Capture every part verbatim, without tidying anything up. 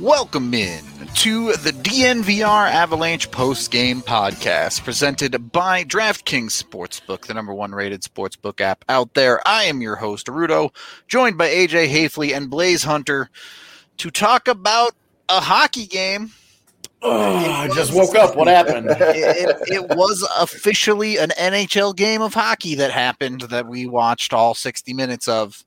Welcome in to the D N V R Avalanche post-game podcast presented by DraftKings Sportsbook, the number one rated sportsbook app out there. I am your host, Rudo, joined by A J Hafley and Blaze Hunter to talk about a hockey game. Oh, I just woke up. What happened? It, it, it was officially an N H L game of hockey that happened that we watched all sixty minutes of.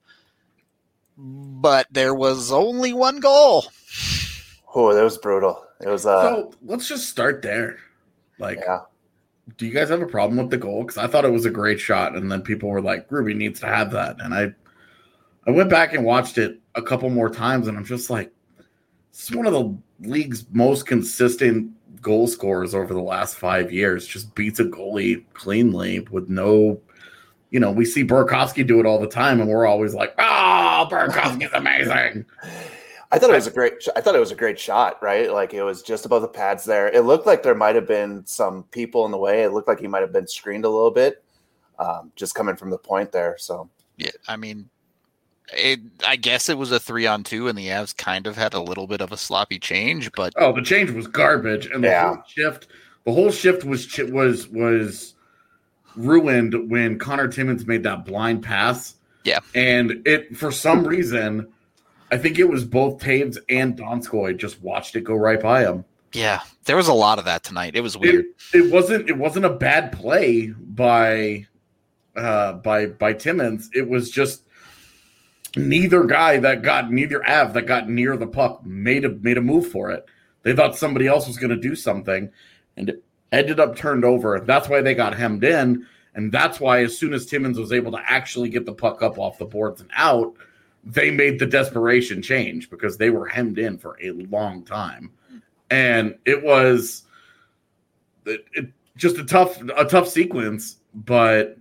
But there was only one goal. Oh, that was brutal. It was. Uh, so let's just start there. Like, yeah. Do you guys have a problem with the goal? Because I thought it was a great shot, and then people were like, "Ruby needs to have that." And I, I went back and watched it a couple more times, and I'm just like, "This is one of the league's most consistent goal scorers over the last five years. Just beats a goalie cleanly with no." You know, we see Burakovsky do it all the time, and we're always like, "Oh, Burakovsky's amazing." I thought it was a great. I thought it was a great shot. Right, like it was just above the pads there. It looked like there might have been some people in the way. It looked like he might have been screened a little bit, um, just coming from the point there. So yeah, I mean, it, I guess it was a three on two, and the Avs kind of had a little bit of a sloppy change. But oh, the change was garbage, and the yeah. whole shift, the whole shift was was was. ruined when Connor Timmins made that blind pass. Yeah. And it, for some reason, I think it was both Taves and Donskoy just watched it go right by him. Yeah. There was a lot of that tonight. It was weird. It, it wasn't, it wasn't a bad play by, uh, by, by Timmins. It was just neither guy that got, neither Av that got near the puck made a, made a move for it. They thought somebody else was going to do something, and it ended up turned over. That's why they got hemmed in, and that's why as soon as Timmins was able to actually get the puck up off the boards and out, they made the desperation change because they were hemmed in for a long time. And it was it, it, just a tough a tough sequence, but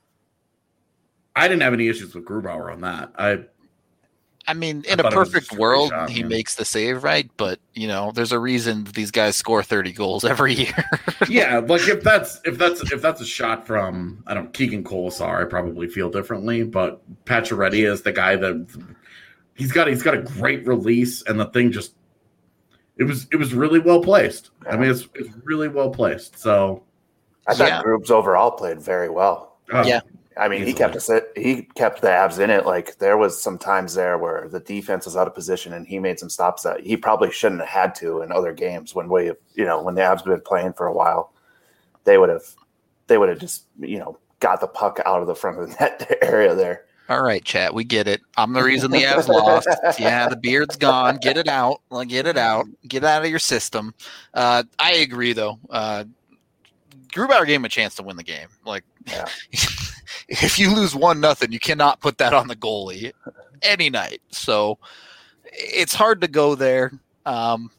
I didn't have any issues with Grubauer on that. I I mean, in I a perfect a world, shot, he man. makes the save, right? But, you know, there's a reason these guys score thirty goals every year. Yeah, like if that's if that's if that's a shot from, I don't know, Keegan Colasar, I probably feel differently. But Pacioretty is the guy that he's got he's got a great release, and the thing just it was it was really well placed. Yeah. I mean, it's it's really well placed. So I thought yeah. Grubs overall played very well. Uh, yeah. I mean, he kept us. He kept the Avs in it. Like there was some times there where the defense was out of position, and he made some stops that he probably shouldn't have had to in other games. When we, you know, when the Avs have been playing for a while, they would have, they would have just, you know, got the puck out of the front of the net area there. All right, chat, we get it. I'm the reason the Avs lost. Yeah, the beard's gone. Get it out. Get it out. Get it out of your system. Uh, I agree, though. Uh, Grubauer gave him a chance to win the game. Like. Yeah. If you lose one nothing, you cannot put that on the goalie any night. So it's hard to go there. Um,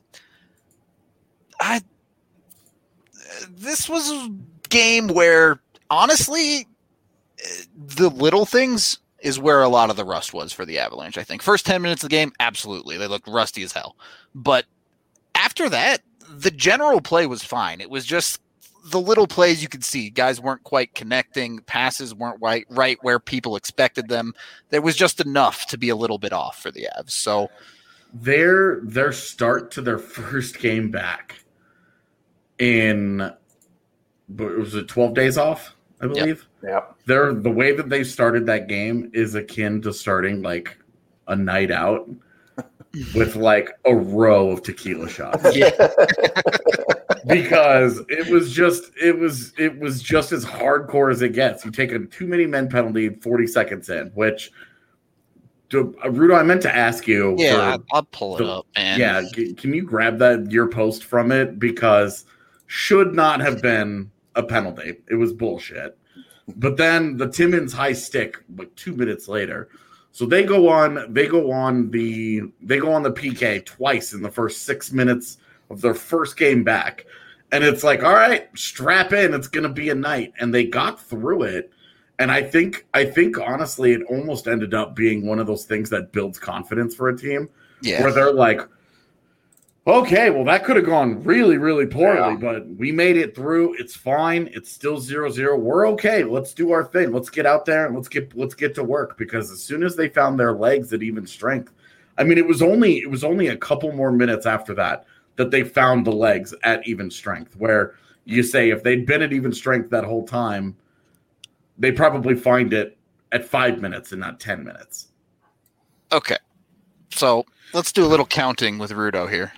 I this was a game where honestly, the little things is where a lot of the rust was for the Avalanche. I think first ten minutes of the game, absolutely, they looked rusty as hell. But after that, the general play was fine. It was just the little plays you could see. Guys weren't quite connecting. Passes weren't right, right where people expected them. There was just enough to be a little bit off for the Avs. So their their start to their first game back in, was it twelve days off, I believe? Yeah. Yep. They're, the way that they started that game is akin to starting like a night out with like a row of tequila shots. Yeah. Because it was just it was it was just as hardcore as it gets. You take a too many men penalty forty seconds in, which do, uh, Rudo, I meant to ask you. Yeah, for, I'll pull it the, up, man. Yeah, can, can you grab that your post from it, because should not have been a penalty. It was bullshit. But then the Timmins high stick like two minutes later. So they go on they go on the they go on the P K twice in the first six minutes of their first game back. And it's like, all right, strap in. It's going to be a night. And they got through it. And I think, I think honestly, it almost ended up being one of those things that builds confidence for a team. Yeah. Where they're like, okay, well, that could have gone really, really poorly, yeah. but we made it through. It's fine. It's still zero zero. We're okay. Let's do our thing. Let's get out there and let's get let's get to work. Because as soon as they found their legs at even strength, I mean, it was only it was only a couple more minutes after that that they found the legs at even strength, where you say if they'd been at even strength that whole time, they probably find it at five minutes and not ten minutes. Okay. So let's do a little counting with Rudo here.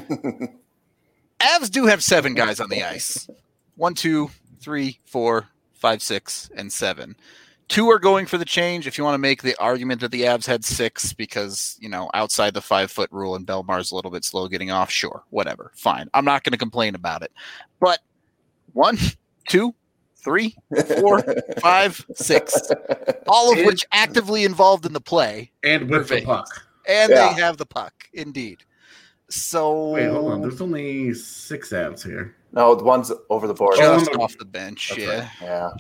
Avs do have seven guys on the ice. One, two, three, four, five, six, and seven. Two are going for the change. If you want to make the argument that the Avs had six because, you know, outside the five-foot rule and Belmar's a little bit slow getting off, sure, whatever, fine. I'm not going to complain about it. But one, two, three, four, five, six, all of and, which actively involved in the play. And with the puck. And yeah. they have the puck, indeed. So wait, hold on. There's only six Avs here. No, the one's over the board. Just Oh, off the bench, That's yeah. right. Yeah.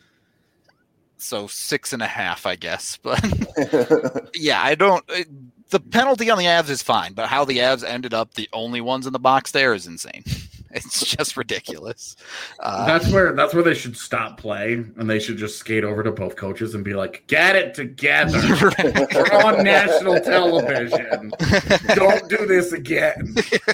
So six and a half, I guess. But yeah, I don't. It, the penalty on the Avs is fine, but how the Avs ended up the only ones in the box there is insane. It's just ridiculous. Uh, That's where that's where they should stop play, and they should just skate over to both coaches and be like, "Get it together. We're on national television. Don't do this again."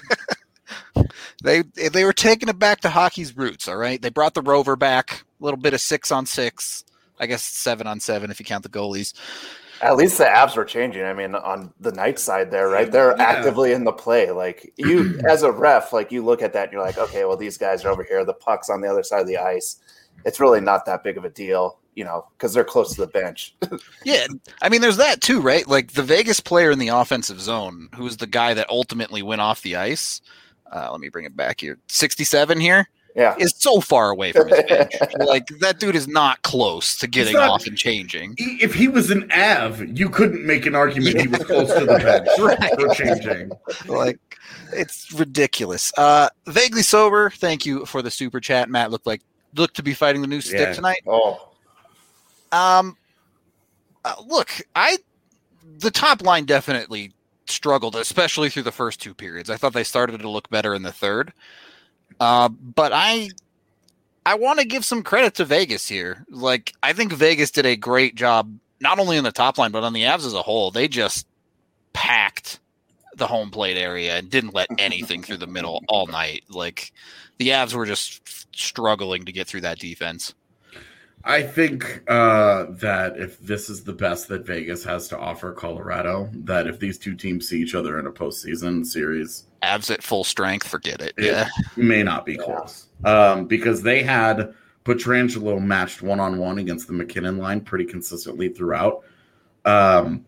They they were taking it back to hockey's roots. All right, they brought the rover back. A little bit of six on six. I guess seven on seven if you count the goalies. At least the Avs were changing. I mean, on the night side there, right? They're Yeah. actively in the play. Like you, as a ref, like you look at that and you're like, okay, well, these guys are over here. The puck's on the other side of the ice. It's really not that big of a deal, you know, because they're close to the bench. Yeah, I mean, there's that too, right? Like the Vegas player in the offensive zone, who's the guy that ultimately went off the ice. Uh, let me bring it back here. sixty-seven here. Yeah. Is so far away from his bench. Like that dude is not close to getting not- off and changing. If he was an Av, you couldn't make an argument he was close to the bench Right. for changing. Like it's ridiculous. Uh, vaguely sober. Thank you for the super chat. Matt looked like looked to be fighting the new stick Yeah. tonight. Oh, Um, uh, look, I the top line definitely struggled, especially through the first two periods. I thought they started to look better in the third. Uh, but I I want to give some credit to Vegas here. Like, I think Vegas did a great job, not only in the top line, but on the Avs as a whole. They just packed the home plate area and didn't let anything through the middle all night. Like, the Avs were just struggling to get through that defense. I think uh, that if this is the best that Vegas has to offer Colorado, that if these two teams see each other in a postseason series, Avs at full strength, forget it. it Yeah. may not be close. Um, because they had Pietrangelo matched one-on-one against the McKinnon line pretty consistently throughout. Um,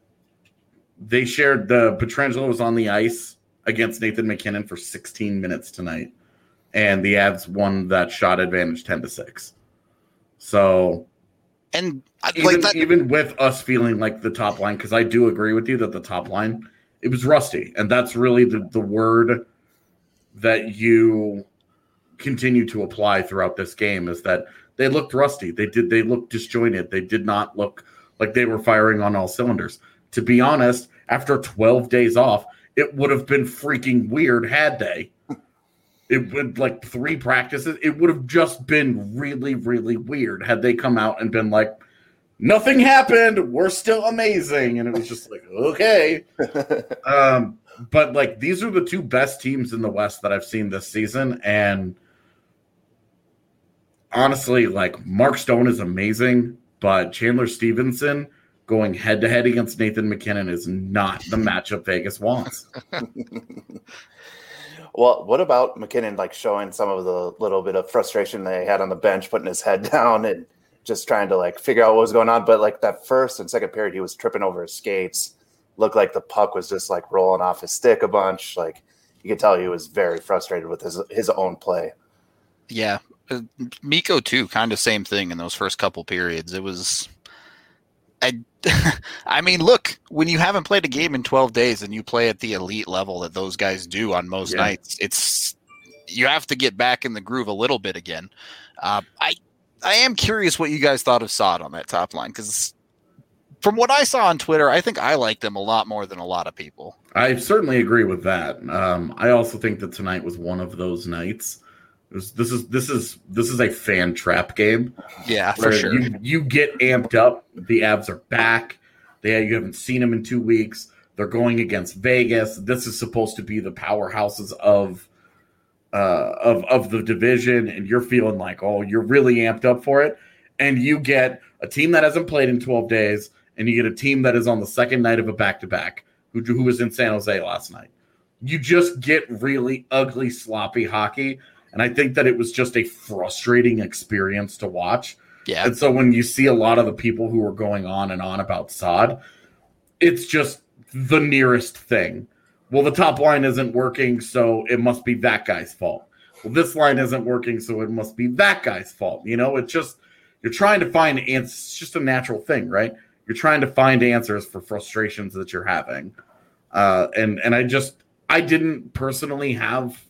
they shared the Pietrangelo was on the ice against Nathan McKinnon for sixteen minutes tonight, and the Avs won that shot advantage ten to six. So And I- even, like that, even with us feeling like the top line, because I do agree with you that the top line, it was rusty. And that's really the, the word that you continue to apply throughout this game is that they looked rusty. They did. They looked disjointed. They did not look like they were firing on all cylinders. To be honest, after twelve days off, it would have been freaking weird had they. It would like three practices. It would have just been really, really weird had they come out and been like, nothing happened. We're still amazing. And it was just like, okay. um, but like, these are the two best teams in the West that I've seen this season. And honestly, like Mark Stone is amazing, but Chandler Stevenson going head to head against Nathan McKinnon is not the matchup Vegas wants. well, what about McKinnon like showing some of the little bit of frustration they had on the bench, putting his head down and just trying to like figure out what was going on? But like that first and second period, he was tripping over his skates. Looked like the puck was just like rolling off his stick a bunch. Like you could tell he was very frustrated with his his own play. yeah. Uh, Mikko too, kind of same thing in those first couple periods. It was, I, I mean, look, when you haven't played a game in twelve days and you play at the elite level that those guys do on most Yeah. nights, it's you have to get back in the groove a little bit again. Uh, I, I am curious what you guys thought of Saad on that top line because from what I saw on Twitter, I think I liked him a lot more than a lot of people. I certainly agree with that. Um, I also think that tonight was one of those nights. This, this is this is this is a fan trap game. Yeah, for where sure. You, you get amped up. The Avs are back. They you haven't seen them in two weeks. They're going against Vegas. This is supposed to be the powerhouses of uh, of of the division, and you're feeling like, oh, you're really amped up for it. And you get a team that hasn't played in twelve days, and you get a team that is on the second night of a back-to-back, who, who was in San Jose last night. You just get really ugly, sloppy hockey, and I think that it was just a frustrating experience to watch. Yeah. And so when you see a lot of the people who are going on and on about Saad, it's just the nearest thing. Well, the top line isn't working, so it must be that guy's fault. Well, this line isn't working, so it must be that guy's fault. You know, it's just, you're trying to find answers. It's just a natural thing, right? You're trying to find answers for frustrations that you're having. Uh, and, and I just, I didn't personally have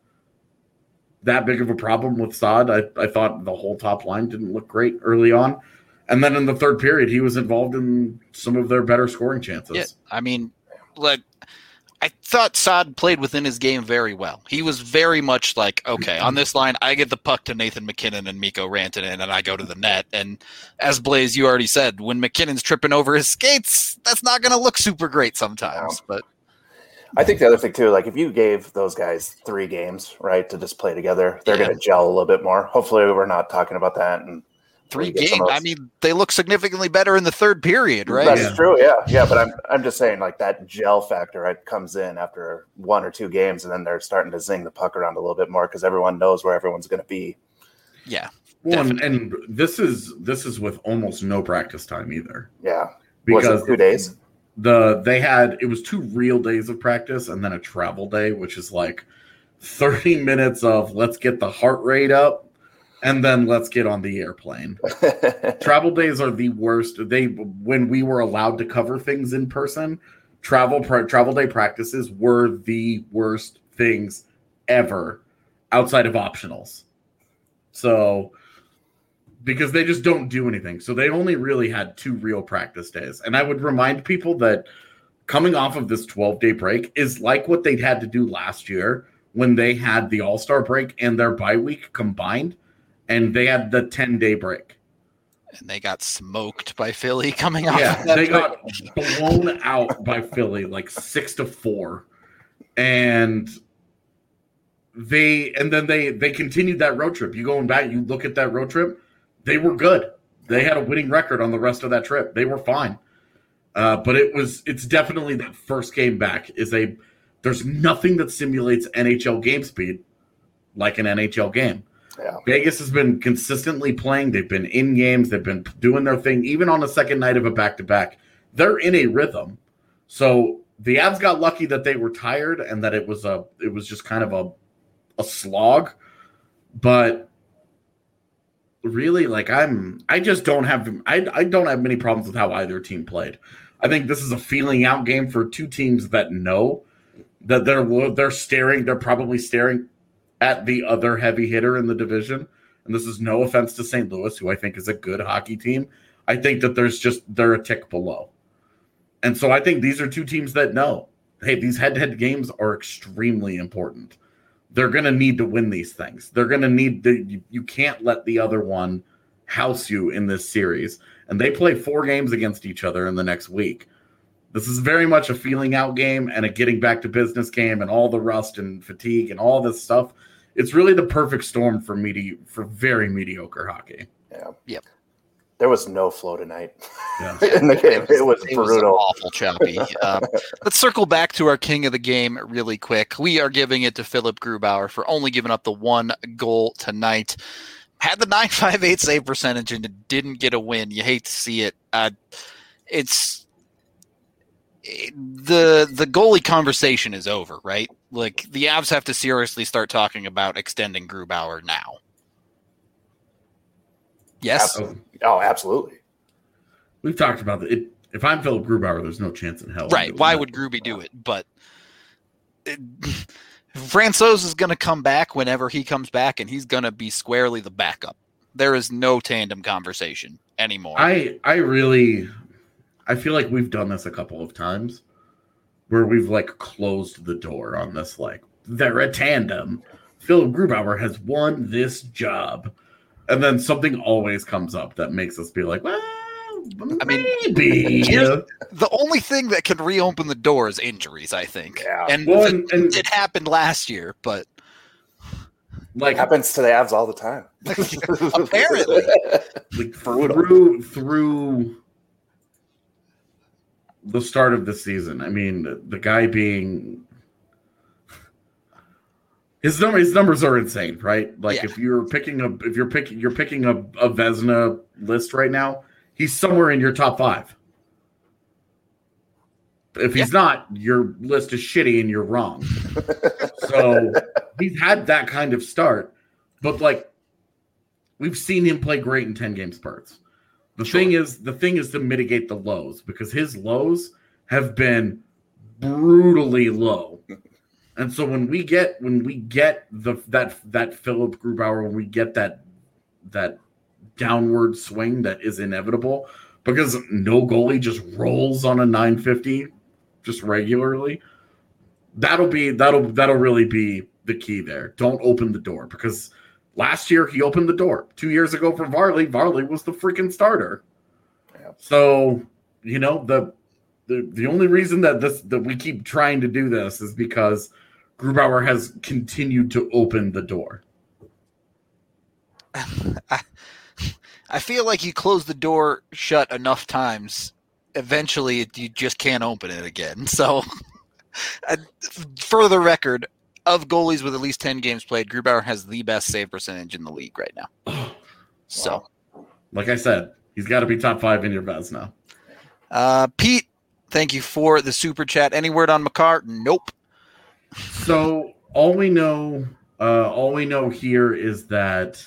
that big of a problem with Saad. I, I thought the whole top line didn't look great early on. And then in the third period, he was involved in some of their better scoring chances. Yeah, I mean, like, I thought Saad played within his game very well. He was very much like, okay, on this line, I get the puck to Nathan MacKinnon and Mikko Rantanen, and I go to the net. And as Blaze, you already said, when McKinnon's tripping over his skates, that's not going to look super great sometimes. But I think the other thing, too, like if you gave those guys three games, right, to just play together, they're yeah. going to gel a little bit more. Hopefully we're not talking about that. And Three games. I mean, they look significantly better in the third period, right? That's yeah. true. Yeah, yeah. But I'm, I'm just saying, like that gel factor, right, comes in after one or two games, and then they're starting to zing the puck around a little bit more because everyone knows where everyone's going to be. Yeah. Well, and, and this is this is with almost no practice time either. Yeah. Because was it two days. The they had it was two real days of practice and then a travel day, which is like thirty minutes of let's get the heart rate up. And then let's get on the airplane. Travel days are the worst. They when we were allowed to cover things in person, travel pra- travel day practices were the worst things ever outside of optionals. So because they just don't do anything. So they only really had two real practice days. And I would remind people that coming off of this twelve-day break is like what they'd had to do last year when they had the All-Star break and their bye week combined. And they had the ten-day break. And they got smoked by Philly coming off. Yeah, of that they break. got blown out by Philly, like six to four. And they and then they they continued that road trip. You going back, you look at that road trip, they were good. They had a winning record on the rest of that trip. They were fine. Uh, but it was it's definitely that first game back is a there's nothing that simulates N H L game speed like an N H L game. Yeah. Vegas has been consistently playing. They've been in games. They've been doing their thing. Even on the second night of a back-to-back, they're in a rhythm. So the Avs got lucky that they were tired and that it was a it was just kind of a a slog. But really, like I'm, I just don't have I I don't have many problems with how either team played. I think this is a feeling out game for two teams that know that they're they're staring. They're probably staring at the other heavy hitter in the division. And this is no offense to Saint Louis, who I think is a good hockey team. I think that there's just, they're a tick below. And so I think these are two teams that know, hey, these head-to-head games are extremely important. They're going to need to win these things. They're going to need to, you, you can't let the other one house you in this series. And they play four games against each other in the next week. This is very much a feeling out game and a getting back to business game and all the rust and fatigue and all this stuff. It's really the perfect storm for medi- for very mediocre hockey. Yeah. Yep. There was no flow tonight yeah. in the game. It was, it was, it brutal. Was awful choppy. um, let's circle back to our king of the game really quick. We are giving it to Philip Grubauer for only giving up the one goal tonight. Had the nine five eight save percentage and didn't get a win. You hate to see it. Uh, it's it, the the goalie conversation is over, right? Like the Avs have to seriously start talking about extending Grubauer now. Yes. Absolutely. Oh, absolutely. We've talked about it. If I'm Philip Grubauer, there's no chance in hell. Right. Why would Gruby do it? But it, Francouz is going to come back whenever he comes back, and he's going to be squarely the backup. There is no tandem conversation anymore. I, I really, I feel like we've done this a couple of times where we've like closed the door on this. Like they're a tandem. Philip Grubauer has won this job. And then something always comes up that makes us be like, well, I mean, maybe the only thing that can reopen the door is injuries, I think. Yeah. And, well, the, and, and it happened last year, but like it happens to the Avs all the time. apparently, like through through the start of the season. I mean, the, the guy being his number his numbers are insane, right? Like yeah. if you're picking a if you're picking you're picking a, a Vezina list right now, he's somewhere in your top five. If he's yeah. not, your list is shitty and you're wrong. So he's had that kind of start, but like we've seen him play great in ten game spurts. The sure. thing is, the thing is to mitigate the lows because his lows have been brutally low. And so when we get when we get the that that Philip Grubauer, when we get that that downward swing that is inevitable because no goalie just rolls on a nine fifty just regularly, that'll be that'll that'll really be the key there. Don't open the door because last year he opened the door. Two years ago for Varley, Varley was the freaking starter. Yeah. So you know the the the only reason that this that we keep trying to do this is because Grubauer has continued to open the door. I, I feel like you close the door shut enough times, eventually you just can't open it again. So, uh, for the record, of goalies with at least ten games played, Grubauer has the best save percentage in the league right now. So, like I said, he's got to be top five in your Vez now. Uh, Pete, thank you for the super chat. Any word on Makar? Nope. So all we know, uh, all we know here is that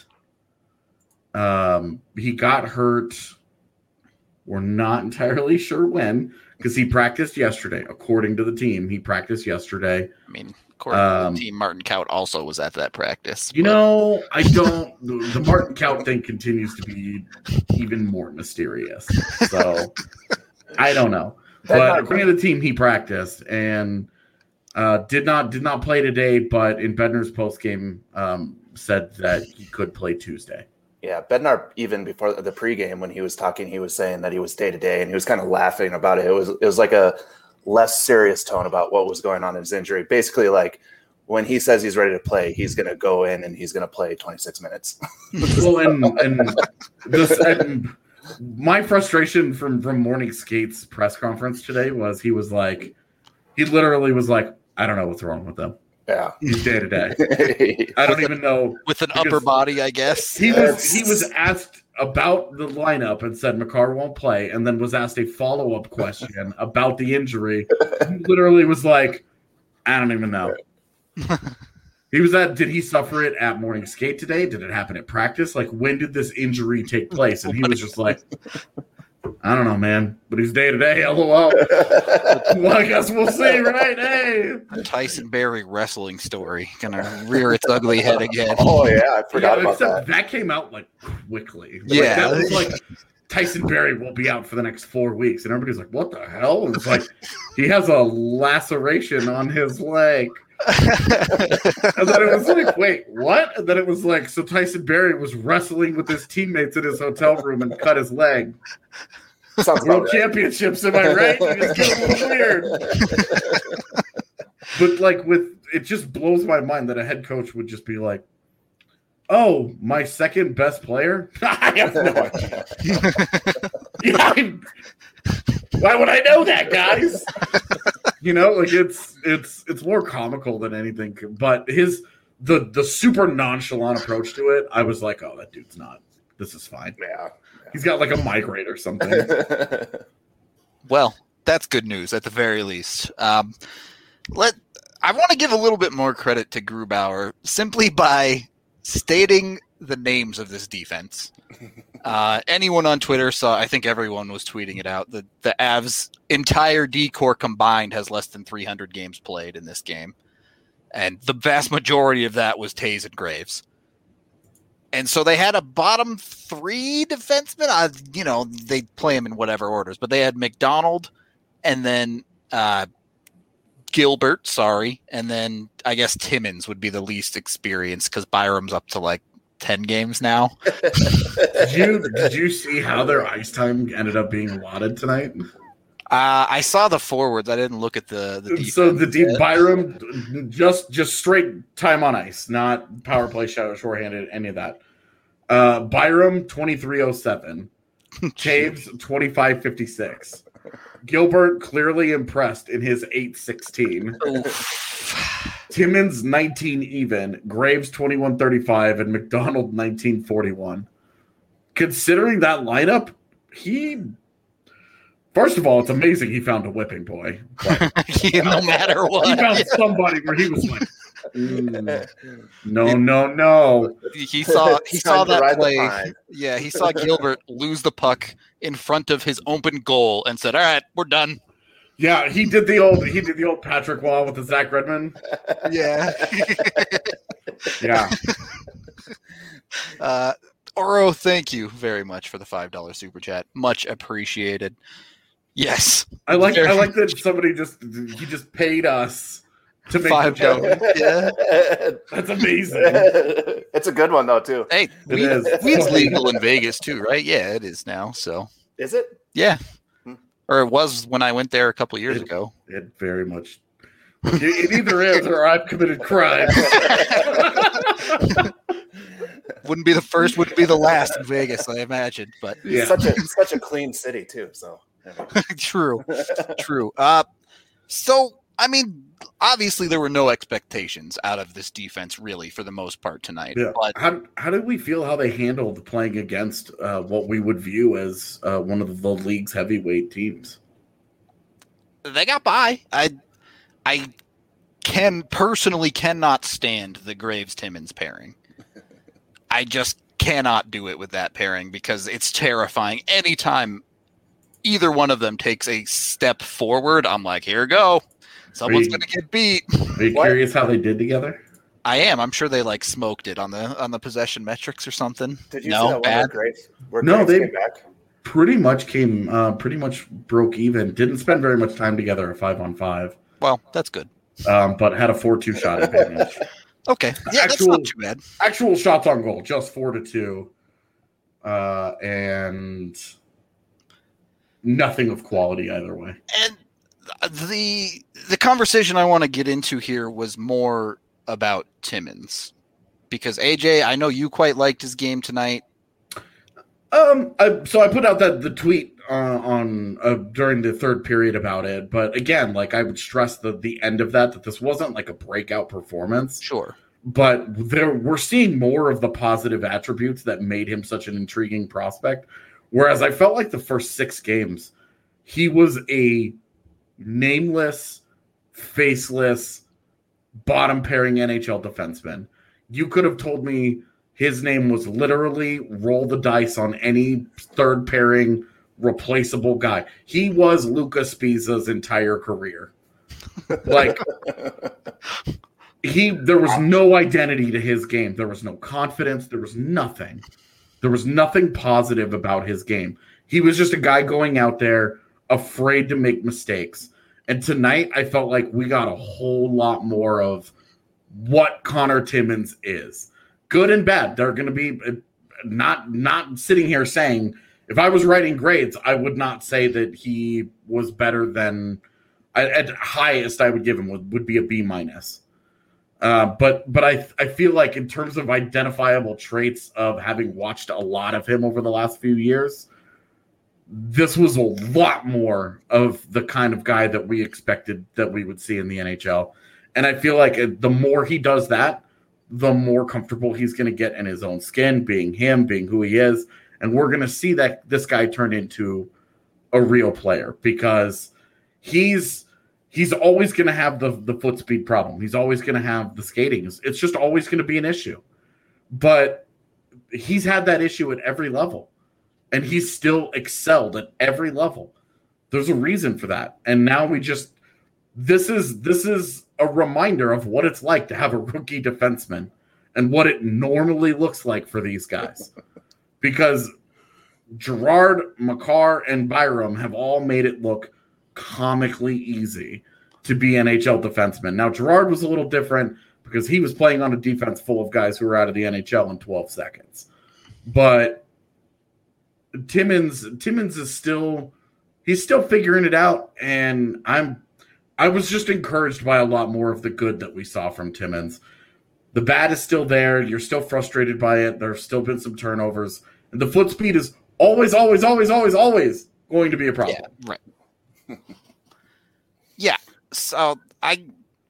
um, he got hurt. We're not entirely sure when, because he practiced yesterday. According to the team, he practiced yesterday. I mean, according um, to the team, Martin Kaut also was at that practice. You but... know, I don't. the, the Martin Kaut thing continues to be even more mysterious. So I don't know. But according to the team, he practiced and. Uh, did not did not play today, but in Bednar's postgame um, said that he could play Tuesday. Yeah, Bednar, even before the pregame when he was talking, he was saying that he was day to day, and he was kind of laughing about it. It was it was like a less serious tone about what was going on in his injury. Basically, like when he says he's ready to play, he's going to go in and he's going to play twenty-six minutes. Well, and and, this, and my frustration from from Morning Skate's press conference today was he was like, he literally was like, I don't know what's wrong with them. Yeah, he's day to day. I don't even know with an upper body. I guess he was. He was asked about the lineup and said Makar won't play, and then was asked a follow up question about the injury. He literally was like, I don't even know. He was at. Did he suffer it at morning skate today? Did it happen at practice? Like when did this injury take place? And he was just like, I don't know, man, but he's day to day. LOL. Well, I guess we'll see, right? Hey, the Tyson Berry wrestling story gonna rear its ugly head again. Oh yeah, I forgot yeah, about that. That came out like quickly. Yeah, like, that was like Tyson Berry will be out for the next four weeks, and everybody's like, "What the hell?" And it's like he has a laceration on his leg. And then it was like, wait, what? And then it was like, so Tyson Berry was wrestling with his teammates in his hotel room and cut his leg. Sounds World right. Championships, am I right? It's getting a little weird. But like with it just blows my mind that a head coach would just be like, oh, my second best player? I have no idea. Yeah, I, why would I know that, guys? You know, like it's it's it's more comical than anything. But his the the super nonchalant approach to it, I was like, oh, that dude's not. This is fine. Yeah, yeah. He's got like a migraine or something. Well, that's good news at the very least. Um, let I want to give a little bit more credit to Grubauer simply by stating the names of this defense. Uh, anyone on Twitter saw, I think everyone was tweeting it out, the, the Avs' entire D-core combined has less than three hundred games played in this game. And the vast majority of that was Taves and Graves. And so they had a bottom three defenseman. I, you know, they play them in whatever orders, but they had McDonald and then uh, Gilbert, sorry. And then I guess Timmins would be the least experienced because Byram's up to like ten games now. Did you did you see how their ice time ended up being allotted tonight? Uh, I saw the forwards. I didn't look at the the defense. So the deep Byram just just straight time on ice, not power play, shadow, shorthanded, any of that. Uh, Byram twenty-three oh seven, Taves twenty-five fifty-six. Gilbert clearly impressed in his eight sixteen. Timmins nineteen even, Graves twenty-one thirty-five, and McDonald nineteen forty-one. Considering that lineup, he first of all, it's amazing he found a whipping boy. No matter what, he found somebody where he was like, mm, no, no, no. He saw he saw that play. Yeah, he saw Gilbert lose the puck in front of his open goal and said, "All right, we're done." Yeah, he did the old he did the old Patrick Waugh with the Zach Redmond. Yeah, yeah. Uh, Oro, thank you very much for the five dollar super chat. Much appreciated. Yes, I like I like that somebody just he just paid us to make five dollars. Yeah, that's amazing. It's a good one though too. Hey, It weed, is. weed's legal in Vegas too, right? Yeah, it is now. So Is it? yeah, or it was when I went there a couple years It- ago. It very much it, it either is or I've committed crime. Wouldn't be the first, wouldn't be the last in Vegas, I imagine. But Yeah. Such a such a clean city too. So true, true. Uh, so I mean, obviously there were no expectations out of this defense, really, for the most part tonight. Yeah. But How how did we feel how they handled playing against uh, what we would view as uh, one of the league's heavyweight teams? they got by. I, I can personally cannot stand the Graves Timmins pairing. I just cannot do it with that pairing because it's terrifying. Anytime either one of them takes a step forward, I'm like, here we go. Someone's Are you- going to get beat. Are you What? curious how they did together? I am. I'm sure they like smoked it on the on the possession metrics or something. did you no, see that one bad. where Graves, where No, Graves they- came back? Pretty much came, uh, pretty much broke even. Didn't spend very much time together at five on five, Well, that's good. um, but had a four two shot advantage. Okay. Yeah, that's Actual- not too bad. Actual shots on goal, just four to two, uh, and nothing of quality either way. And the the conversation I want to get into here was more about Timmins. Because A J, I know you quite liked his game tonight. Um, I, so I put out that the tweet uh, on uh, during the third period about it, but again, like I would stress the the end of that that this wasn't like a breakout performance, Sure. but there we're seeing more of the positive attributes that made him such an intriguing prospect. Whereas I felt like the first six games, he was a nameless, faceless, bottom pairing N H L defenseman. You could have told me his name was literally roll the dice on any third pairing replaceable guy. He was Lucas Spiza's entire career. Like he there was no identity to his game. There was no confidence. There was nothing. There was nothing positive about his game. He was just a guy going out there afraid to make mistakes. And tonight I felt like we got a whole lot more of what Connor Timmins is. Good and bad. They're going to be not not sitting here saying, if I was writing grades, I would not say that he was better than at highest I would give him would, would be a B minus. Uh, but but I I feel like in terms of identifiable traits of having watched a lot of him over the last few years, this was a lot more of the kind of guy that we expected that we would see in the N H L. And I feel like the more he does that, the more comfortable he's going to get in his own skin, being him, being who he is. And we're going to see that this guy turn into a real player because he's he's always going to have the, the foot speed problem. He's always going to have the skating. It's, it's just always going to be an issue. But he's had that issue at every level. And he's still excelled at every level. There's a reason for that. And now we just this is this is a reminder of what it's like to have a rookie defenseman and what it normally looks like for these guys. Because Gerard, Makar, and Byram have all made it look comically easy to be N H L defensemen. Now, Gerard was a little different because he was playing on a defense full of guys who were out of the N H L in twelve seconds. But Timmins, Timmins is still, he's still figuring it out, and I'm, I was just encouraged by a lot more of the good that we saw from Timmins. The bad is still there. You're still frustrated by it. There's still been some turnovers, and the foot speed is always, always, always, always, always going to be a problem. Yeah, right. Yeah. So I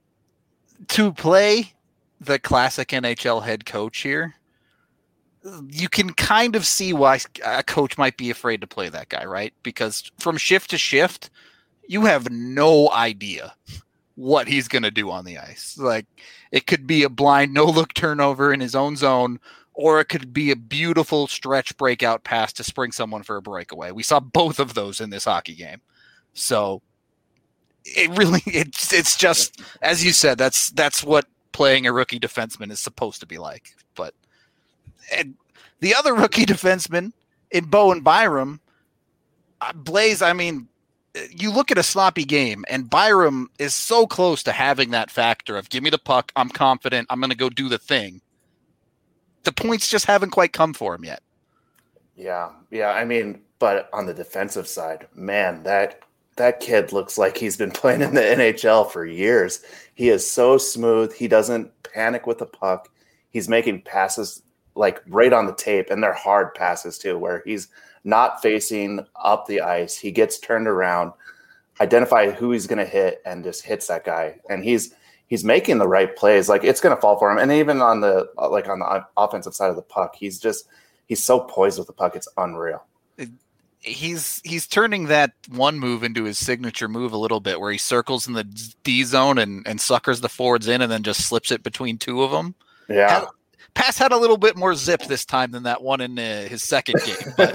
to play the classic N H L head coach here, you can kind of see why a coach might be afraid to play that guy, right? Because from shift to shift, you have no idea what he's going to do on the ice. Like, it could be a blind no-look turnover in his own zone, or it could be a beautiful stretch breakout pass to spring someone for a breakaway. We saw both of those in this hockey game. So it really, it's it's just, as you said, that's that's what playing a rookie defenseman is supposed to be like. But and the other rookie defenseman in Bowen Byram, uh, Blaze, I mean, you look at a sloppy game, and Byram is so close to having that factor of give me the puck, I'm confident, I'm going to go do the thing. The points just haven't quite come for him yet. Yeah, yeah. I mean, but on the defensive side, man, that that kid looks like he's been playing in the N H L for years. He is so smooth. He doesn't panic with the puck. He's making passes like right on the tape, and they're hard passes too, where he's not facing up the ice. He gets turned around, identify who he's going to hit, and just hits that guy. And he's he's making the right plays. Like, it's going to fall for him. And even on the like on the offensive side of the puck, he's just he's so poised with the puck. It's unreal. He's he's turning that one move into his signature move a little bit, where he circles in the D zone and, and suckers the forwards in, and then just slips it between two of them. Yeah. Had, Pass had a little bit more zip this time than that one in uh, his second game. But,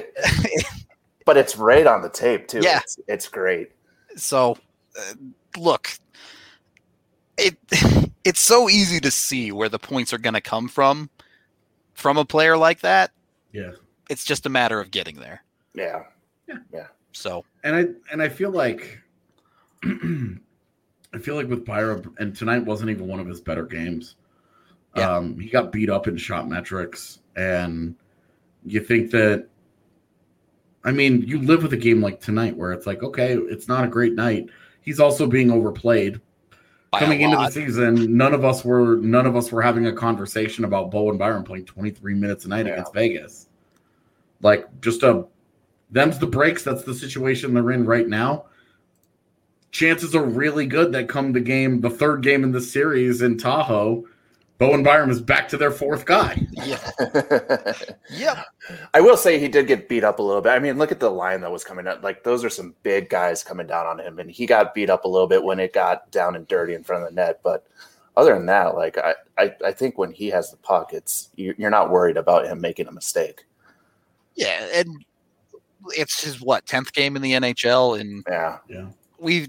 but it's right on the tape, too. Yeah. It's, it's great. So, uh, look, it it's so easy to see where the points are going to come from, from a player like that. Yeah. It's just a matter of getting there. Yeah. Yeah. Yeah. So, and I and I feel like I feel like with Byram, and tonight wasn't even one of his better games. Yeah. Um, he got beat up in shot metrics, and you think that, I mean, you live with a game like tonight where it's like, okay, it's not a great night. He's also being overplayed. By Coming into the season, none of us were none of us were having a conversation about Bowen Byram playing twenty-three minutes a night yeah. against Vegas. Like, just a them's the breaks. That's the situation they're in right now. Chances are really good that come the game, the third game in the series in Tahoe, Bowen Byram is back to their fourth guy. Yeah. Yep. I will say he did get beat up a little bit. I mean, look at the line that was coming up. Like, those are some big guys coming down on him, and he got beat up a little bit when it got down and dirty in front of the net. But other than that, like, I, I, I think when he has the puck, it's you're not worried about him making a mistake. Yeah, and it's his, what, tenth game in the N H L? And yeah, yeah. we've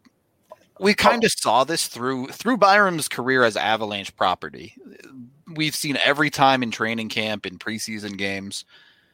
We kind of saw this through through Byram's career as Avalanche property. We've seen every time in training camp, in preseason games,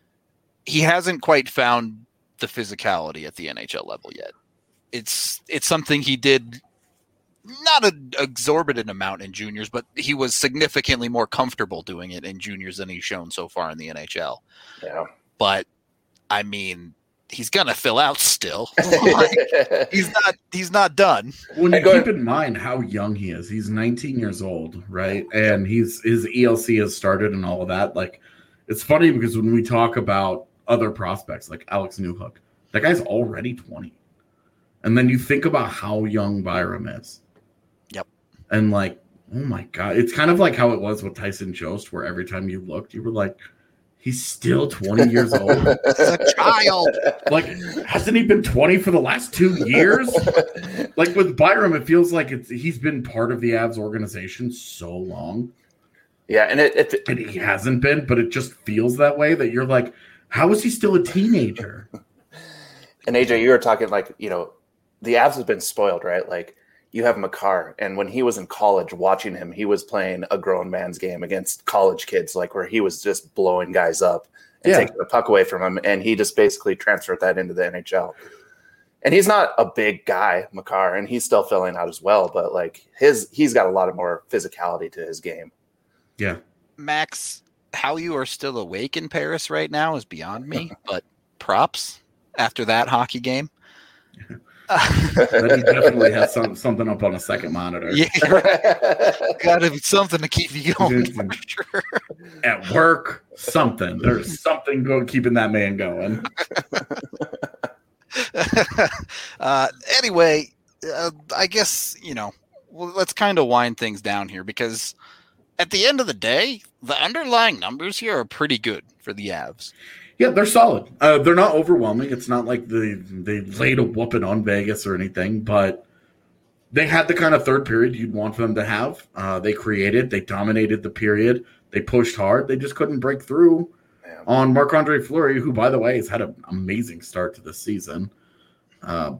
he hasn't quite found the physicality at the N H L level yet. It's it's something he did not an exorbitant amount in juniors, but he was significantly more comfortable doing it in juniors than he's shown so far in the N H L. Yeah. But, I mean, he's gonna fill out still. Like, he's not. He's not done. When you keep in mind how young he is, he's nineteen years old, right? And he's his E L C has started and all of that. Like, it's funny because when we talk about other prospects like Alex Newhook, that guy's already twenty, and then you think about how young Byram is. Yep. And like, oh my god, it's kind of like how it was with Tyson Jost, where every time you looked, you were like, he's still twenty years old. He's a child. Like, hasn't he been twenty for the last two years? Like, with Byram, it feels like it's he's been part of the Avs organization so long. Yeah, and it, it, and he hasn't been, but it just feels that way, that you're like, how is he still a teenager? And A J, you were talking like, you know, the Avs have been spoiled, right? Like, you have Makar, and when he was in college, watching him, he was playing a grown man's game against college kids, like where he was just blowing guys up and yeah. taking the puck away from him, and he just basically transferred that into the N H L. And he's not a big guy, Makar, and he's still filling out as well. But like his, he's got a lot of more physicality to his game. Yeah, Max, how you are still awake in Paris right now is beyond me. But props after that hockey game. But he definitely has some, something up on a second monitor. Yeah, got to be something to keep you going for sure. At work, something. There's something going keeping that man going. uh, anyway, uh, I guess, you know, well, let's kind of wind things down here because at the end of the day, the underlying numbers here are pretty good for the Avs. Yeah, they're solid. Uh, they're not overwhelming. It's not like they they laid a whooping on Vegas or anything, but they had the kind of third period you'd want them to have. Uh, they created, they dominated the period, they pushed hard. They just couldn't break through Man. on Marc-Andre Fleury, who, by the way, has had an amazing start to this season. Uh,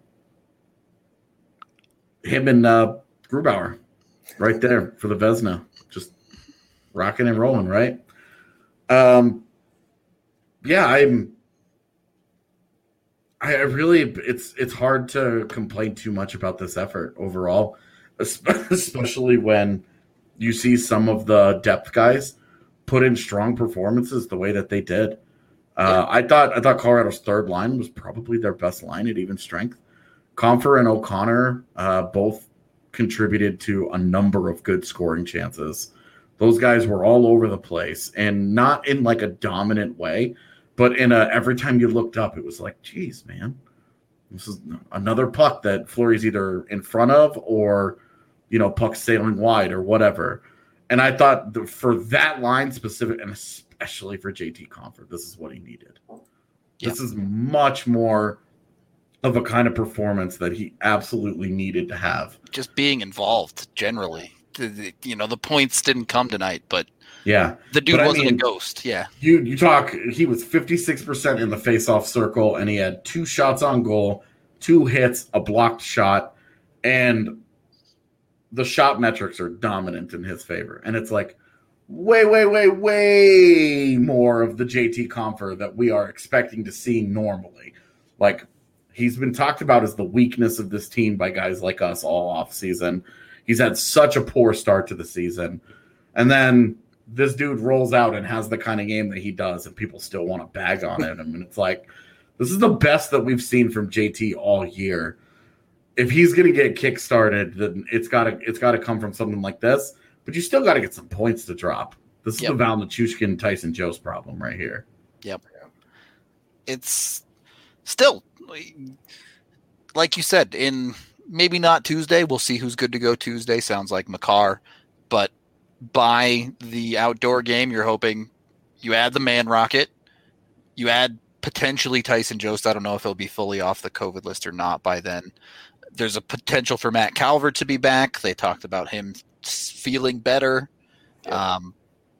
him and uh, Grubauer right there for the Vezina, just rocking and rolling, right? Um. Yeah, I'm. I really, it's it's hard to complain too much about this effort overall, especially when you see some of the depth guys put in strong performances the way that they did. Uh, I thought I thought Colorado's third line was probably their best line at even strength. Compher and O'Connor uh, both contributed to a number of good scoring chances. Those guys were all over the place, and not in like a dominant way. But in a, every time you looked up, it was like, geez, man, this is another puck that Fleury's either in front of or, you know, puck sailing wide or whatever. And I thought the, for that line specific, and especially for J T Compher, this is what he needed. Yep. This is much more of a kind of performance that he absolutely needed to have. Just being involved generally. The, the, you know, the points didn't come tonight, but yeah, the dude but wasn't I mean, a ghost. Yeah, you you talk. He was fifty-six percent in the face-off circle, and he had two shots on goal, two hits, a blocked shot, and the shot metrics are dominant in his favor. And it's like way, way, way, way more of the J T Compher that we are expecting to see normally. Like he's been talked about as the weakness of this team by guys like us all off season. He's had such a poor start to the season, and then this dude rolls out and has the kind of game that he does, and people still want to bag on it. I mean, it's like, this is the best that we've seen from J T all year. If he's going to get kick-started, then it's got to it's got to come from something like this. But you still got to get some points to drop. This is yep. the Val Nichushkin, Tyson Jost problem right here. Yep. It's still, like you said, in maybe not Tuesday. We'll see who's good to go Tuesday. Sounds like Makar. But by the outdoor game, you're hoping you add the man rocket, you add potentially Tyson Jost. I don't know if he'll be fully off the COVID list or not by then. There's a potential for Matt Calvert to be back. They talked about him feeling better. Yeah. Um,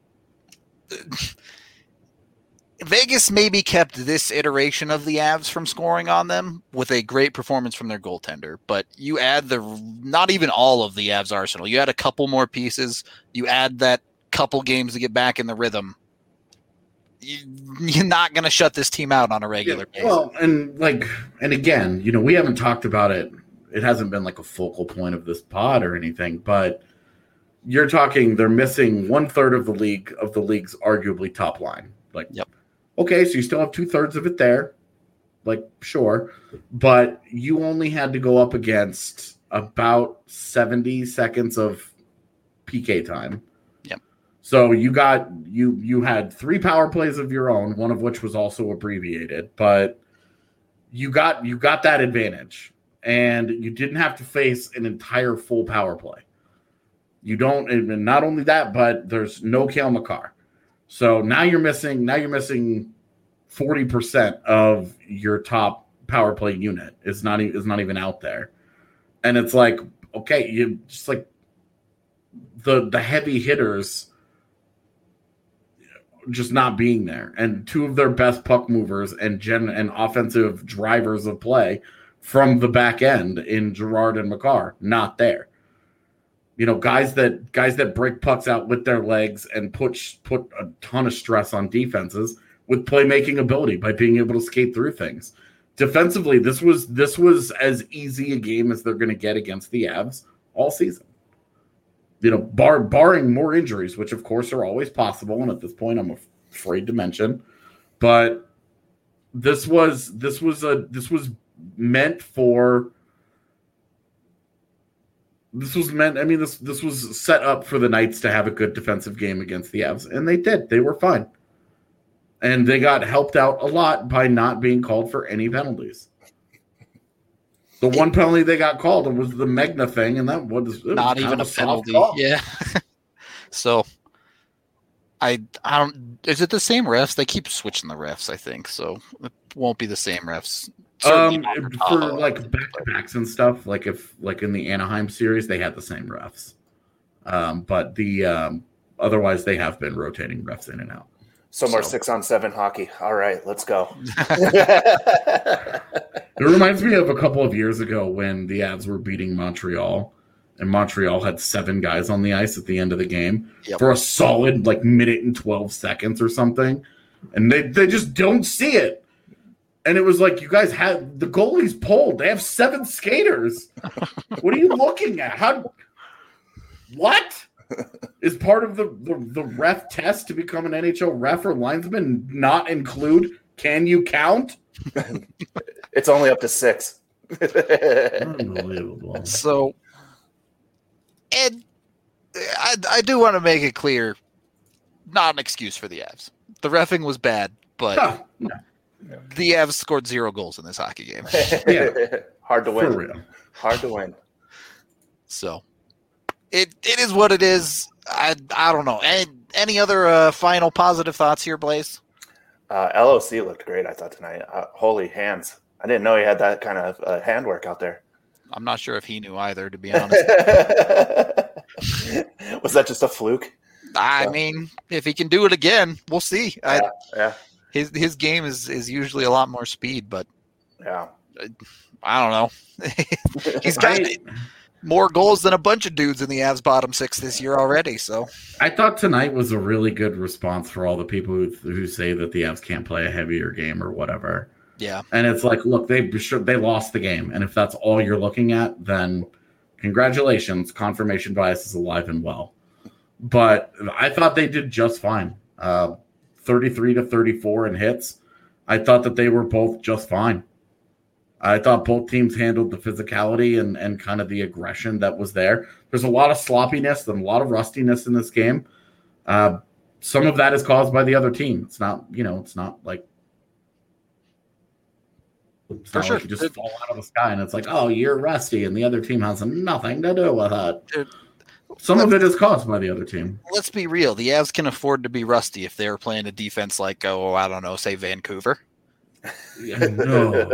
Vegas maybe kept this iteration of the Avs from scoring on them with a great performance from their goaltender. But you add the not even all of the Avs arsenal. You add a couple more pieces. You add that couple games to get back in the rhythm. You, you're not going to shut this team out on a regular yeah, basis. Well, and like, and again, you know, we haven't talked about it. It hasn't been like a focal point of this pod or anything, but you're talking they're missing one third of the league of the league's arguably top line. Like, yep. Okay, so you still have two thirds of it there. Like, sure. But you only had to go up against about seventy seconds of P K time. Yep. So you got you you had three power plays of your own, one of which was also abbreviated, but you got you got that advantage. And you didn't have to face an entire full power play. You don't, and not only that, but there's no Cale Makar. So now you're missing. Now you're missing forty percent of your top power play unit. Is not is not even out there, and it's like, okay, you just like the the heavy hitters just not being there, and two of their best puck movers and gen and offensive drivers of play from the back end in Girard and Makar not there. You know, guys that guys that break pucks out with their legs and put put a ton of stress on defenses with playmaking ability by being able to skate through things. defensively, this was this was as easy a game as they're going to get against the Avs all season. You know, bar, barring more injuries, which of course are always possible, and at this point I'm afraid to mention. But this was this was a this was meant for this was meant. I mean, this this was set up for the Knights to have a good defensive game against the Avs, and they did. They were fine. And they got helped out a lot by not being called for any penalties. The one penalty they got called was the Megna thing, and that was not was even a soft penalty. call. Yeah. So, I I don't. Is it the same refs? They keep switching the refs, I think. So it won't be the same refs. Um, Certainly not for Tahoe. like back to backs and stuff, like if like in the Anaheim series, they had the same refs. Um, but the um, otherwise they have been rotating refs in and out. Some more So- six on seven hockey. All right, let's go. It reminds me of a couple of years ago when the Avs were beating Montreal, and Montreal had seven guys on the ice at the end of the game Yep. for a solid like minute and twelve seconds or something, and they they just don't see it. And it was like, you guys had the goalie's pulled. They have seven skaters. What are you looking at? How? What? Is part of the, the, the ref test to become an N H L ref or linesman not include can you count? It's only up to six. Unbelievable. So, and I, I do want to make it clear, not an excuse for the Avs. The reffing was bad, but Huh, no, the Avs scored zero goals in this hockey game. Yeah. Hard to for win. real. Hard to win. So, it it is what it is. I I don't know. Any, any other uh, final positive thoughts here, Blaze? Uh, L O C looked great, I thought, tonight. Uh, holy hands. I didn't know he had that kind of uh, handwork out there. I'm not sure if he knew either, to be honest. Was that just a fluke? I Yeah. mean, if he can do it again, we'll see. I, Yeah, yeah, his his game is, is usually a lot more speed, but yeah. I don't know. He's got I, more goals than a bunch of dudes in the Avs bottom six this year already. So I thought tonight was a really good response for all the people who, who say that the Avs can't play a heavier game or whatever. yeah, And it's like, look, they they lost the game, and if that's all you're looking at, then congratulations, confirmation bias is alive and well. But I thought they did just fine. Uh, thirty-three to thirty-four in hits. I thought that they were both just fine. I thought both teams handled the physicality and, and kind of the aggression that was there. There's a lot of sloppiness and a lot of rustiness in this game. Uh, some of that is caused by the other team. It's not, you know, it's not like it's For not sure. like you just It- fall out of the sky and it's like, oh, you're rusty, and the other team has nothing to do with it. Dude, Some of it is caused by the other team. let's be real. The Avs can afford to be rusty if they were playing a defense like, oh, I don't know, say Vancouver. Yeah, no.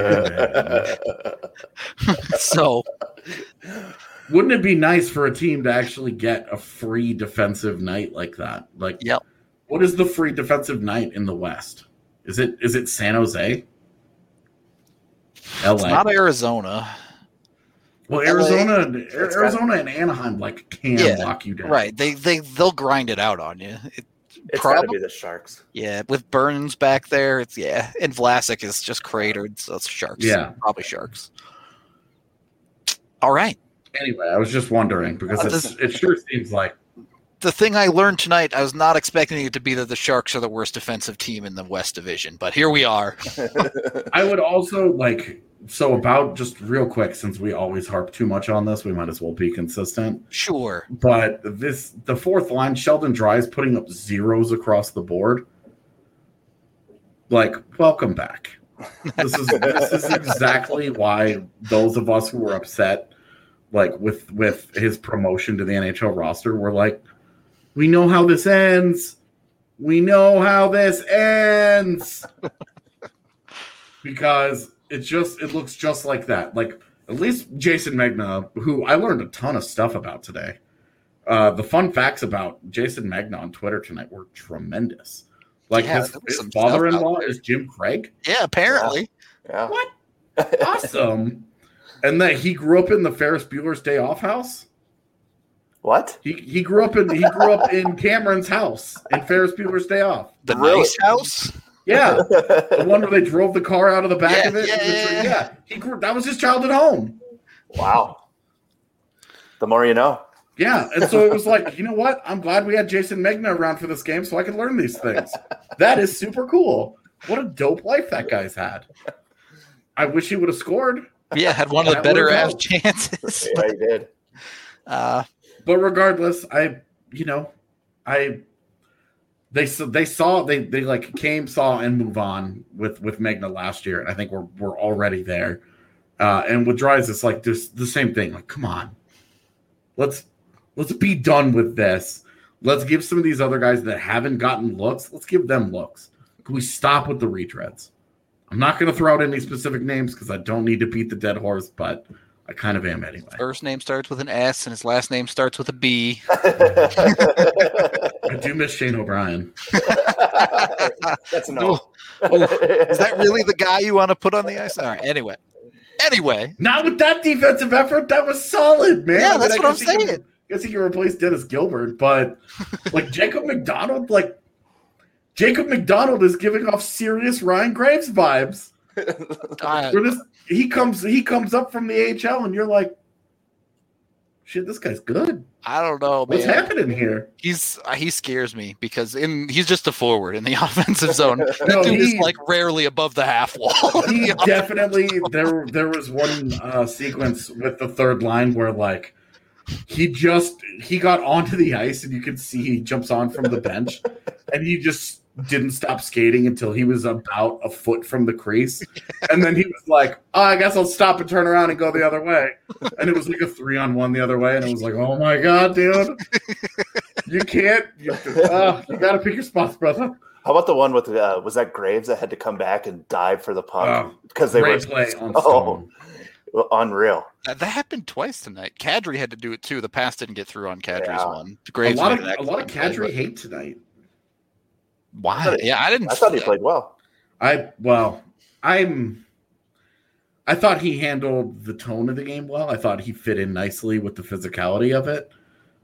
So Wouldn't it be nice for a team to actually get a free defensive night like that? Like, Yep. What is the free defensive night in the West? Is it is it San Jose? L A. it's not Arizona. Well, L A. Arizona, and It's Arizona and Anaheim like can Yeah, lock you down. Right. They they they'll grind it out on you. It, It's got to Probably- be the Sharks. yeah, with Burns back there, it's yeah, and Vlasic is just cratered, so it's Sharks. Yeah. Probably Sharks. All right. Anyway, I was just wondering because Uh, it's, this- it sure seems like The thing I learned tonight, I was not expecting it to be that the Sharks are the worst defensive team in the West Division, but here we are. I would also like so about just real quick, since we always harp too much on this, we might as well be consistent. Sure. But this the fourth line, Sheldon Dries putting up zeros across the board. Like, welcome back. This is this is exactly why those of us who were upset, like with with his promotion to the N H L roster, were like, we know how this ends. We know how this ends. Because it just it looks just like that. Like at least Jason Megna, who I learned a ton of stuff about today. Uh, the fun facts about Jason Megna on Twitter tonight were tremendous. Like Yeah, his, there was his some stuff father-in-law out there. is Jim Craig. Yeah, apparently. Yeah. What? Awesome. And that he grew up in the Ferris Bueller's Day Off house. What? He he grew up in he grew up in Cameron's house in Ferris Bueller's Day Off. The Really? nice house? Yeah, the one where they drove the car out of the back Yeah, of it. yeah, yeah, yeah. He grew, that was his childhood home. Wow. The more you know. Yeah, and so it was like, you know what? I'm glad we had Jason Megna around for this game so I could learn these things. That is super cool. What a dope life that guy's had. I wish he would have scored. Yeah, had one of the That better would've ass helped. chances. Yeah, he did. Uh, But regardless, I, you know, I, they they saw they they like came, saw, and move on with with Megna last year, and I think we're we're already there. Uh, and with Dries, it's like there's the same thing. Like, come on, let's let's be done with this. Let's give some of these other guys that haven't gotten looks. Let's give them looks. Can we stop with the retreads? I'm not going to throw out any specific names because I don't need to beat the dead horse, but I kind of am anyway. first name starts with an S and his last name starts with a B. I do miss Shane O'Brien. That's a no. Oh, is that really the guy you want to put on the ice? All right. Anyway, anyway, Not with that defensive effort. That was solid, man. Yeah, I mean, that's I what I'm guess he can- saying. I guess he can replace Dennis Gilbert, but like Jacob McDonald, like Jacob McDonald is giving off serious Ryan Graves vibes. uh, Where this, he comes, he comes up from the A H L, and you're like, "Shit, this guy's good. I don't know, man. What's happening here?" He's uh, he scares me because in he's just a forward in the offensive zone. That No, dude is he- like rarely above the half wall. He definitely there. There was one uh, sequence with the third line where like he just he got onto the ice, and you could see he jumps on from the bench, and he just didn't stop skating until he was about a foot from the crease. And then he was like, oh, I guess I'll stop and turn around and go the other way. And it was like a three on one the other way. And it was like, oh my God, dude. You can't. You, uh, you got to pick your spots, brother. How about the one with uh, was that Graves that had to come back and dive for the puck Oh, because they Great were play on oh, Stone. unreal. That, that happened twice tonight. Kadri had to do it too. The pass didn't get through on Kadri's Yeah. one. A Graves lot of made an a lot of excellent play, Kadri hate tonight. but Why? I thought he- yeah, I didn't. I thought he played well. I well, I'm. I thought he handled the tone of the game well. I thought he fit in nicely with the physicality of it.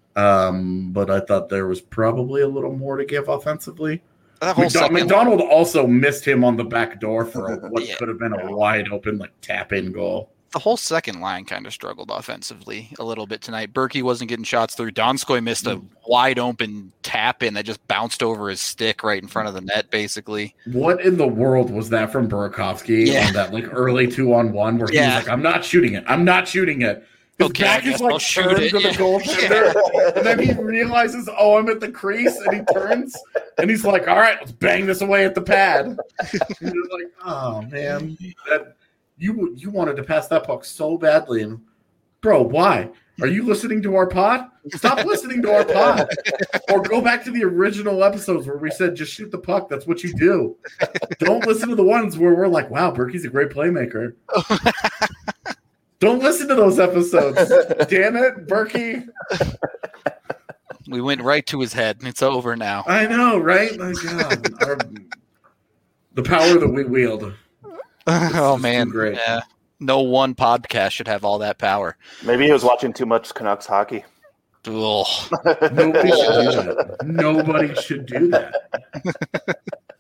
Um, but I thought there was probably a little more to give offensively. That whole McDo- second, McDonald also missed him on the back door for a, what Yeah. could have been a wide open like tap in goal. the whole second line kind of struggled offensively a little bit tonight. Berkey wasn't getting shots through. Donskoy missed a wide open tap in that just bounced over his stick right in front of the net, basically. What in the world was that from Burakovsky Yeah. on that like early two on one where he Yeah. was like, I'm not shooting it. I'm not shooting it. His Okay, I back is guess like I'll shoot turned it, to the yeah. goaltender. And then he realizes, oh, I'm at the crease, and he turns and he's like, all right, let's bang this away at the pad. And you're like, oh man, that you you wanted to pass that puck so badly, and bro, why? Are you listening to our pod? Stop listening to our pod. Or go back to the original episodes where we said just shoot the puck. That's what you do. Don't listen to the ones where we're like, wow, Berkey's a great playmaker. Don't listen to those episodes. Damn it, Berkey. We went right to his head, and it's over now. I know, right? My God. Our, the power that we wield. oh, is man. too great. Yeah. No one podcast should have all that power. Maybe he was watching too much Canucks hockey. Ugh. Nobody should do that. Nobody should do that.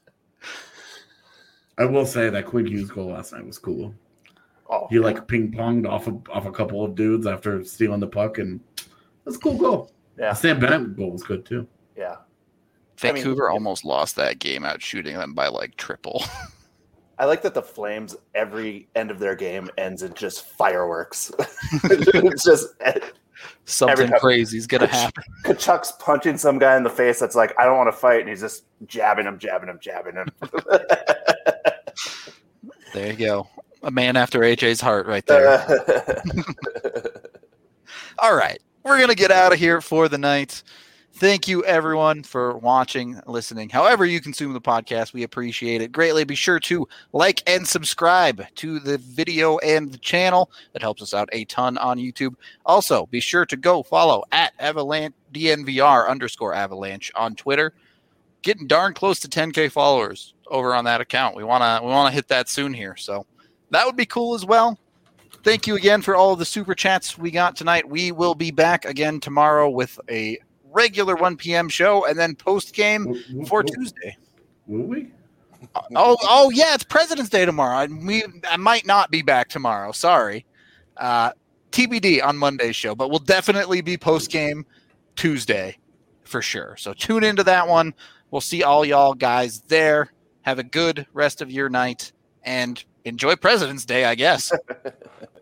I will say that Quinn Hughes goal last night was cool. Oh, He like ping ponged off of, off a couple of dudes after stealing the puck, and that's a cool goal. yeah, The Sam Bennett goal was good too. yeah. I mean- Vancouver almost lost that game out shooting them by like triple. I like that the Flames, every end of their game ends in just fireworks. It's just Something time- crazy is going to happen. Kachuk's punching some guy in the face that's like, I don't want to fight, and he's just jabbing him, jabbing him, jabbing him. There you go. A man after A J's heart right there. All right. We're going to get out of here for the night. Thank you, everyone, for watching, listening. However you consume the podcast, we appreciate it greatly. Be sure to like and subscribe to the video and the channel. That helps us out a ton on YouTube. Also, be sure to go follow at Avalanche D N V R underscore Avalanche on Twitter. Getting darn close to ten K followers over on that account. We wanna we wanna hit that soon here, so that would be cool as well. Thank you again for all of the super chats we got tonight. We will be back again tomorrow with a regular one p.m. show and then post game W- w- for w- Tuesday. Will we? oh, oh yeah, it's President's Day tomorrow. I, we, I might not be back tomorrow. Sorry. Uh, T B D on Monday's show, but we'll definitely be post-game Tuesday for sure. So tune into that one. We'll see all y'all guys there. Have a good rest of your night and enjoy President's Day, I guess.